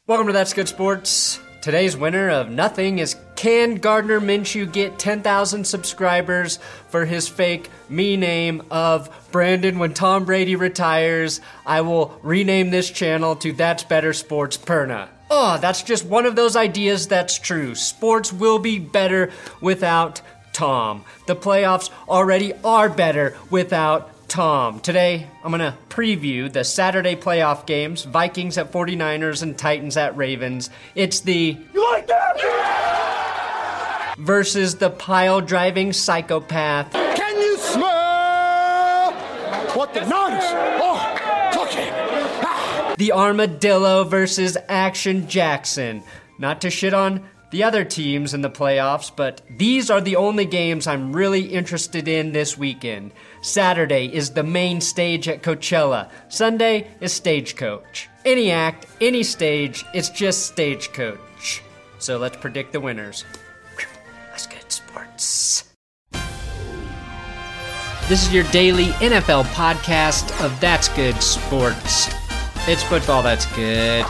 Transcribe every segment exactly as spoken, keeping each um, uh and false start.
Welcome to That's Good Sports. Today's winner of nothing is, can Gardner Minshew get ten thousand subscribers for his fake me name of Brandon when Tom Brady retires? I will rename this channel to That's Better Sports Perna. Oh, that's just one of those ideas that's true. Sports will be better without Tom. The playoffs already are better without Tom. Today, I'm going to preview the Saturday playoff games, Vikings at forty-niners and Titans at Ravens. It's the You like that? Yeah! Versus the pile-driving psychopath. Can you smell what the Niners are cooking? Ah! The Armadillo versus Action Jackson. Not to shit on the other teams in the playoffs, but these are the only games I'm really interested in this weekend. Saturday is the main stage at Coachella. Sunday is Stagecoach. Any act, any stage, it's just Stagecoach. So let's predict the winners. That's good sports. This is your daily N F L podcast of That's Good Sports. It's football that's good.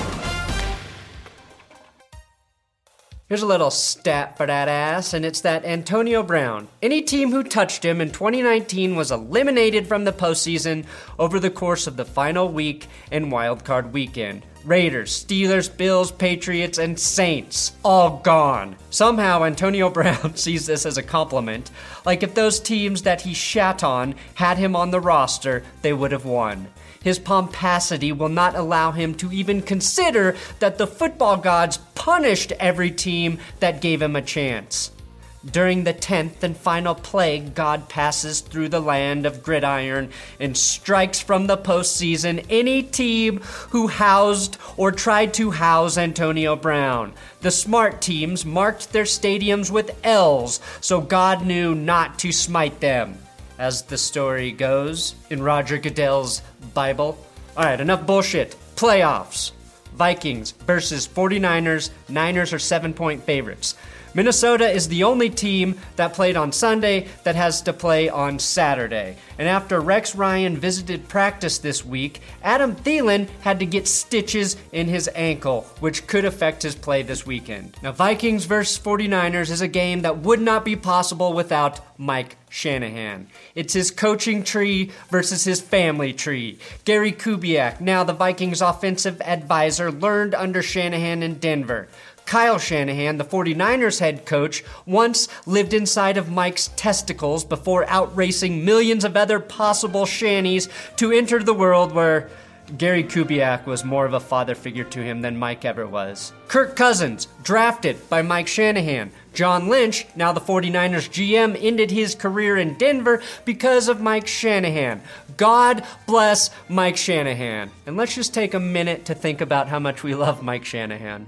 Here's a little stat for that ass, and it's that Antonio Brown, any team who touched him in twenty nineteen was eliminated from the postseason over the course of the final week and wildcard weekend. Raiders, Steelers, Bills, Patriots, and Saints, all gone. Somehow Antonio Brown sees this as a compliment, like if those teams that he shat on had him on the roster, they would have won. His pomposity will not allow him to even consider that the football gods punished every team that gave him a chance. During the tenth and final plague, God passes through the land of gridiron and strikes from the postseason any team who housed or tried to house Antonio Brown. The smart teams marked their stadiums with L's, so God knew not to smite them, as the story goes in Roger Goodell's Bible. All right, enough bullshit. Playoffs. Vikings versus forty-niners. Niners are seven-point favorites. Minnesota is the only team that played on Sunday that has to play on Saturday. And after Rex Ryan visited practice this week, Adam Thielen had to get stitches in his ankle, which could affect his play this weekend. Now, Vikings versus forty-niners is a game that would not be possible without Mike Shanahan. It's his coaching tree versus his family tree. Gary Kubiak, now the Vikings offensive advisor, learned under Shanahan in Denver. Kyle Shanahan, the forty-niners head coach, once lived inside of Mike's testicles before outracing millions of other possible Shannies to enter the world where Gary Kubiak was more of a father figure to him than Mike ever was. Kirk Cousins, drafted by Mike Shanahan. John Lynch, now the forty-niners G M, ended his career in Denver because of Mike Shanahan. God bless Mike Shanahan. And let's just take a minute to think about how much we love Mike Shanahan.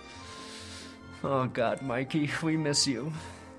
Oh, God, Mikey, we miss you.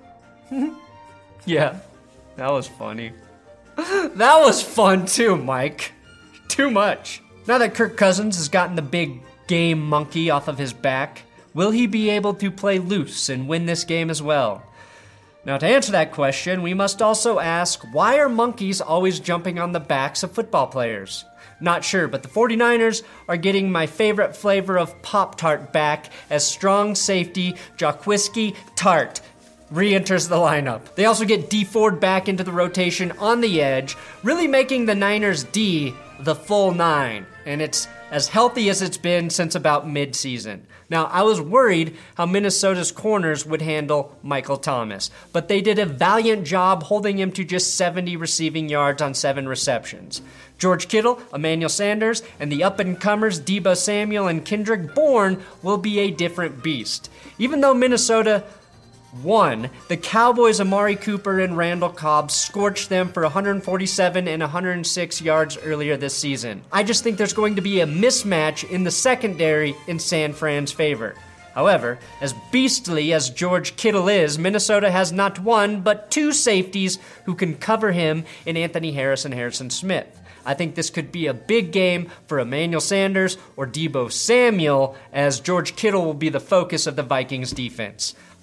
Yeah, that was funny. That was fun, too, Mike. Too much. Now that Kirk Cousins has gotten the big game monkey off of his back, will he be able to play loose and win this game as well? Now, to answer that question, we must also ask, why are monkeys always jumping on the backs of football players? Not sure, but the forty-niners are getting my favorite flavor of Pop-Tart back as strong safety Jaquiski Tart re-enters the lineup. They also get Dee Ford back into the rotation on the edge, really making the Niners D the full nine, and it's as healthy as it's been since about mid-season. Now, I was worried how Minnesota's corners would handle Michael Thomas, but they did a valiant job holding him to just seventy receiving yards on seven receptions. George Kittle, Emmanuel Sanders, and the up-and-comers Deebo Samuel and Kendrick Bourne will be a different beast. Even though Minnesota won, the Cowboys' Amari Cooper and Randall Cobb scorched them for one hundred forty-seven and one hundred six yards earlier this season. I just think there's going to be a mismatch in the secondary in San Fran's favor. However, as beastly as George Kittle is, Minnesota has not one but two safeties who can cover him in Anthony Harris and Harrison Smith. I think this could be a big game for Emmanuel Sanders or Deebo Samuel, as George Kittle will be the focus of the Vikings defense.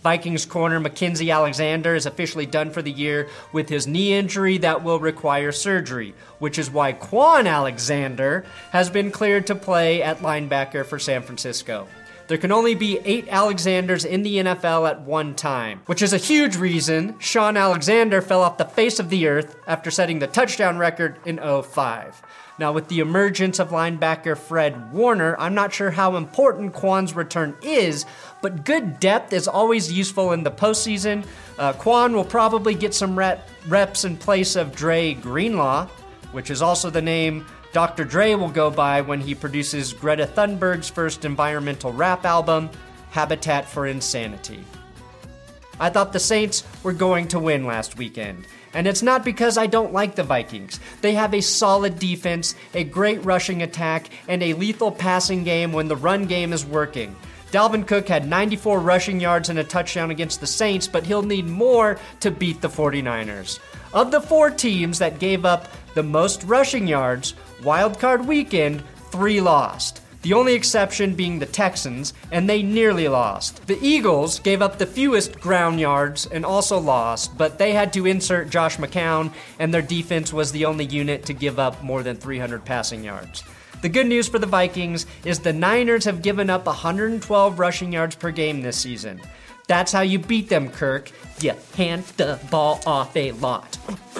Vikings corner Mackenzie Alexander is officially done for the year with his knee injury that will require surgery, which is why Quan Alexander has been cleared to play at linebacker for San Francisco. There can only be eight Alexanders in the N F L at one time, which is a huge reason Shaun Alexander fell off the face of the earth after setting the touchdown record in oh five. Now, with the emergence of linebacker Fred Warner, I'm not sure how important Quan's return is, but good depth is always useful in the postseason. Uh, Quan will probably get some rep- reps in place of Dre Greenlaw, which is also the name Doctor Dre will go by when he produces Greta Thunberg's first environmental rap album, Habitat for Insanity. I thought the Saints were going to win last weekend, and it's not because I don't like the Vikings. They have a solid defense, a great rushing attack, and a lethal passing game when the run game is working. Dalvin Cook had ninety-four rushing yards and a touchdown against the Saints, but he'll need more to beat the forty-niners. Of the four teams that gave up the most rushing yards, wildcard weekend, three lost. The only exception being the Texans, and they nearly lost. The Eagles gave up the fewest ground yards and also lost, but they had to insert Josh McCown, and their defense was the only unit to give up more than three hundred passing yards. The good news for the Vikings is the Niners have given up one hundred twelve rushing yards per game this season. That's how you beat them, Kirk. You hand the ball off a lot.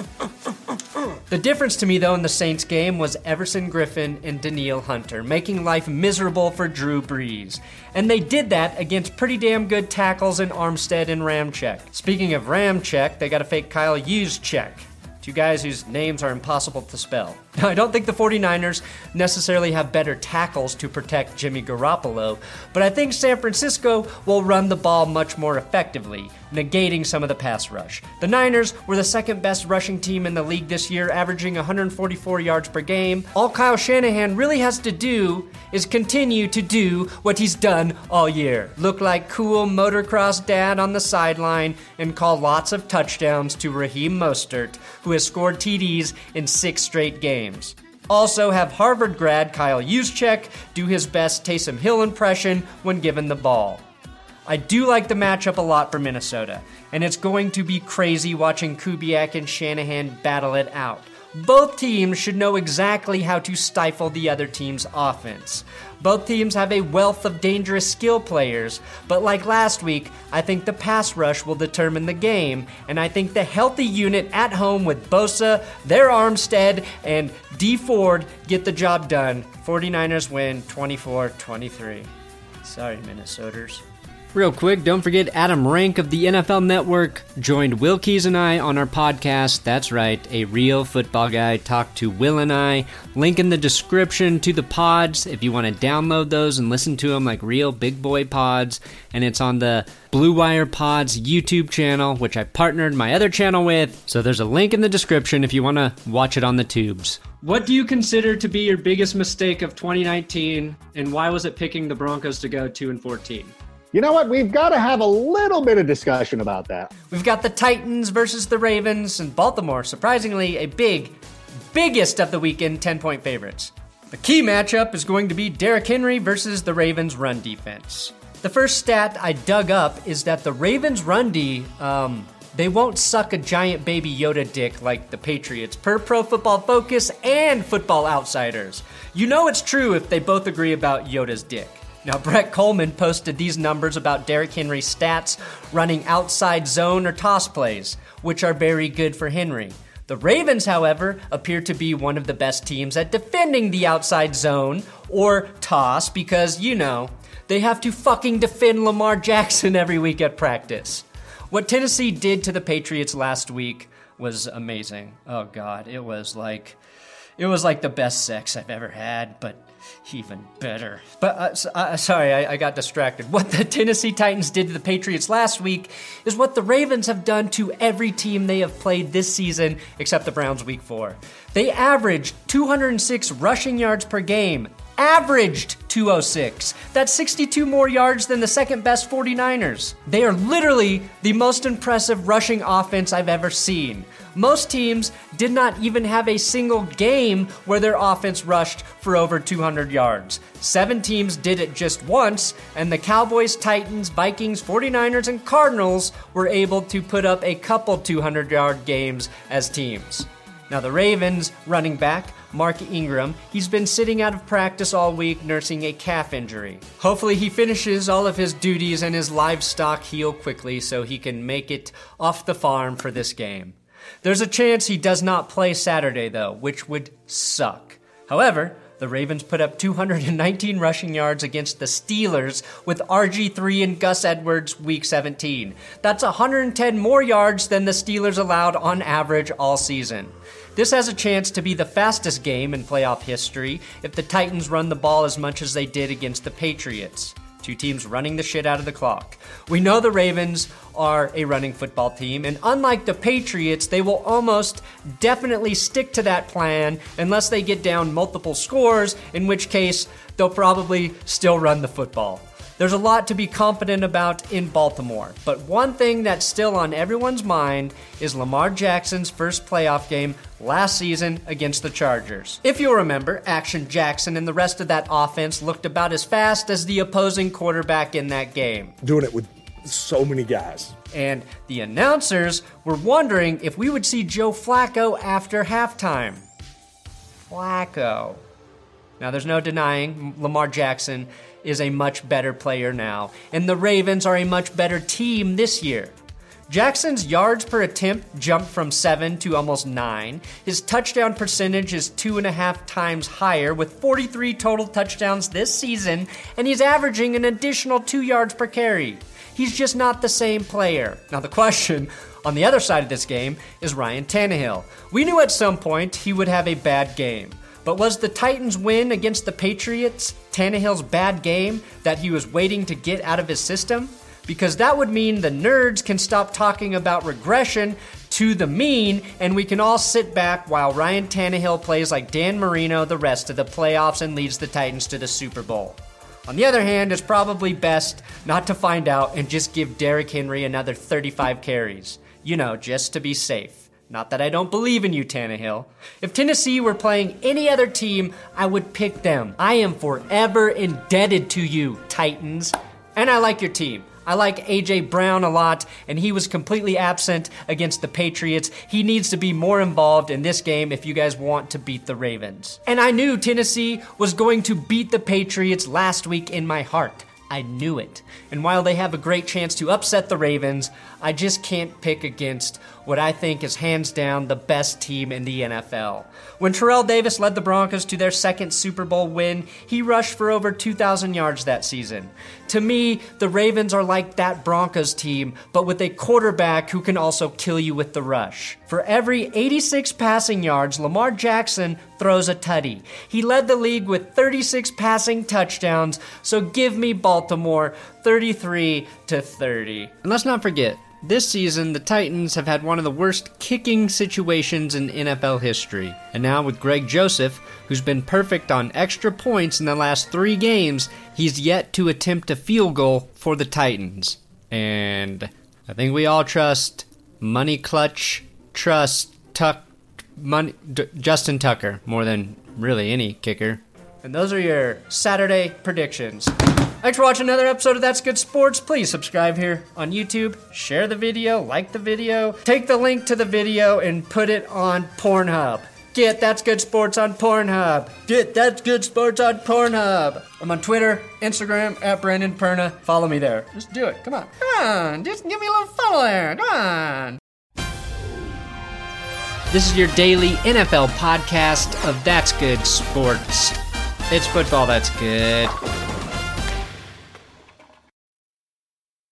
The difference to me, though, in the Saints game was Everson Griffin and Danielle Hunter, making life miserable for Drew Brees. And they did that against pretty damn good tackles in Armstead and Ramczyk. Speaking of Ramczyk, they got a fake Kyle Juszczyk. Two guys whose names are impossible to spell. Now, I don't think the forty-niners necessarily have better tackles to protect Jimmy Garoppolo, but I think San Francisco will run the ball much more effectively, negating some of the pass rush. The Niners were the second best rushing team in the league this year, averaging one hundred forty-four yards per game. All Kyle Shanahan really has to do is continue to do what he's done all year. Look like cool motocross dad on the sideline and call lots of touchdowns to Raheem Mostert, who has scored T Ds in six straight games. Also have Harvard grad Kyle Juszczyk do his best Taysom Hill impression when given the ball. I do like the matchup a lot for Minnesota, and it's going to be crazy watching Kubiak and Shanahan battle it out. Both teams should know exactly how to stifle the other team's offense. Both teams have a wealth of dangerous skill players, but like last week, I think the pass rush will determine the game, and I think the healthy unit at home with Bosa, their Armstead, and D Ford get the job done. forty-niners win twenty-four twenty-three. Sorry, Minnesoters. Real quick, don't forget Adam Rank of the N F L Network joined Will Keys and I on our podcast. That's right, a real football guy talked to Will and I. Link in the description to the pods if you want to download those and listen to them like real big boy pods. And it's on the Blue Wire Pods YouTube channel, which I partnered my other channel with. So there's a link in the description if you want to watch it on the tubes. What do you consider to be your biggest mistake of twenty nineteen, and why was it picking the Broncos to go two and fourteen? You know what? We've got to have a little bit of discussion about that. We've got the Titans versus the Ravens, and Baltimore, surprisingly, a big, biggest of the weekend ten-point favorites. The key matchup is going to be Derrick Henry versus the Ravens' run defense. The first stat I dug up is that the Ravens' run D, um, they won't suck a giant baby Yoda dick like the Patriots, per Pro Football Focus and Football Outsiders. You know it's true if they both agree about Yoda's dick. Now, Brett Coleman posted these numbers about Derrick Henry's stats running outside zone or toss plays, which are very good for Henry. The Ravens, however, appear to be one of the best teams at defending the outside zone or toss because, you know, they have to fucking defend Lamar Jackson every week at practice. What Tennessee did to the Patriots last week was amazing. Oh, God, it was like, it was like the best sex I've ever had, but even better. But, uh, uh, sorry, I, I got distracted. What the Tennessee Titans did to the Patriots last week is what the Ravens have done to every team they have played this season, except the Browns week four. They averaged two hundred six rushing yards per game, averaged two oh six. That's sixty-two more yards than the second best 49ers. They are literally the most impressive rushing offense I've ever seen. Most teams did not even have a single game where their offense rushed for over two hundred yards. Seven teams did it just once, and the Cowboys, Titans, Vikings, 49ers, and Cardinals were able to put up a couple two hundred yard games as teams. Now the Ravens running back, Mark Ingram, he's been sitting out of practice all week nursing a calf injury. Hopefully he finishes all of his duties and his livestock heal quickly so he can make it off the farm for this game. There's a chance he does not play Saturday though, which would suck. However, the Ravens put up two hundred nineteen rushing yards against the Steelers with R G three and Gus Edwards week seventeen. That's one hundred ten more yards than the Steelers allowed on average all season. This has a chance to be the fastest game in playoff history if the Titans run the ball as much as they did against the Patriots. Two teams running the shit out of the clock. We know the Ravens are a running football team, and unlike the Patriots, they will almost definitely stick to that plan unless they get down multiple scores, in which case they'll probably still run the football. There's a lot to be confident about in Baltimore, but one thing that's still on everyone's mind is Lamar Jackson's first playoff game last season against the Chargers. If you'll remember, Action Jackson and the rest of that offense looked about as fast as the opposing quarterback in that game. Doing it with so many guys. And the announcers were wondering if we would see Joe Flacco after halftime. Flacco. Now, there's no denying Lamar Jackson is a much better player now, and the Ravens are a much better team this year. Jackson's yards per attempt jumped from seven to almost nine. His touchdown percentage is two and a half times higher with forty-three total touchdowns this season, and he's averaging an additional two yards per carry. He's just not the same player. Now the question on the other side of this game is Ryan Tannehill. We knew at some point he would have a bad game. But was the Titans' win against the Patriots Tannehill's bad game that he was waiting to get out of his system? Because that would mean the nerds can stop talking about regression to the mean, and we can all sit back while Ryan Tannehill plays like Dan Marino the rest of the playoffs and leads the Titans to the Super Bowl. On the other hand, it's probably best not to find out and just give Derrick Henry another thirty-five carries. You know, just to be safe. Not that I don't believe in you, Tannehill. If Tennessee were playing any other team, I would pick them. I am forever indebted to you, Titans. And I like your team. I like A J Brown a lot, and he was completely absent against the Patriots. He needs to be more involved in this game if you guys want to beat the Ravens. And I knew Tennessee was going to beat the Patriots last week in my heart. I knew it. And while they have a great chance to upset the Ravens, I just can't pick against what I think is hands down the best team in the N F L. When Terrell Davis led the Broncos to their second Super Bowl win, he rushed for over two thousand yards that season. To me, the Ravens are like that Broncos team, but with a quarterback who can also kill you with the rush. For every eighty-six passing yards, Lamar Jackson throws a tutty. He led the league with thirty-six passing touchdowns, so give me Baltimore thirty-three to thirty. And let's not forget, this season, the Titans have had one of the worst kicking situations in N F L history. And now with Greg Joseph, who's been perfect on extra points in the last three games, he's yet to attempt a field goal for the Titans. And I think we all trust Money Clutch, trust Tuck, money, D- Justin Tucker more than really any kicker. And those are your Saturday predictions. Thanks for watching another episode of That's Good Sports. Please subscribe here on YouTube, share the video, like the video, take the link to the video and put it on Pornhub. Get That's Good Sports on Pornhub. Get That's Good Sports on Pornhub. I'm on Twitter, Instagram, at Brandon Perna. Follow me there. Just do it. Come on. Come on. Just give me a little follow there. Come on. This is your daily N F L podcast of That's Good Sports. It's football that's good.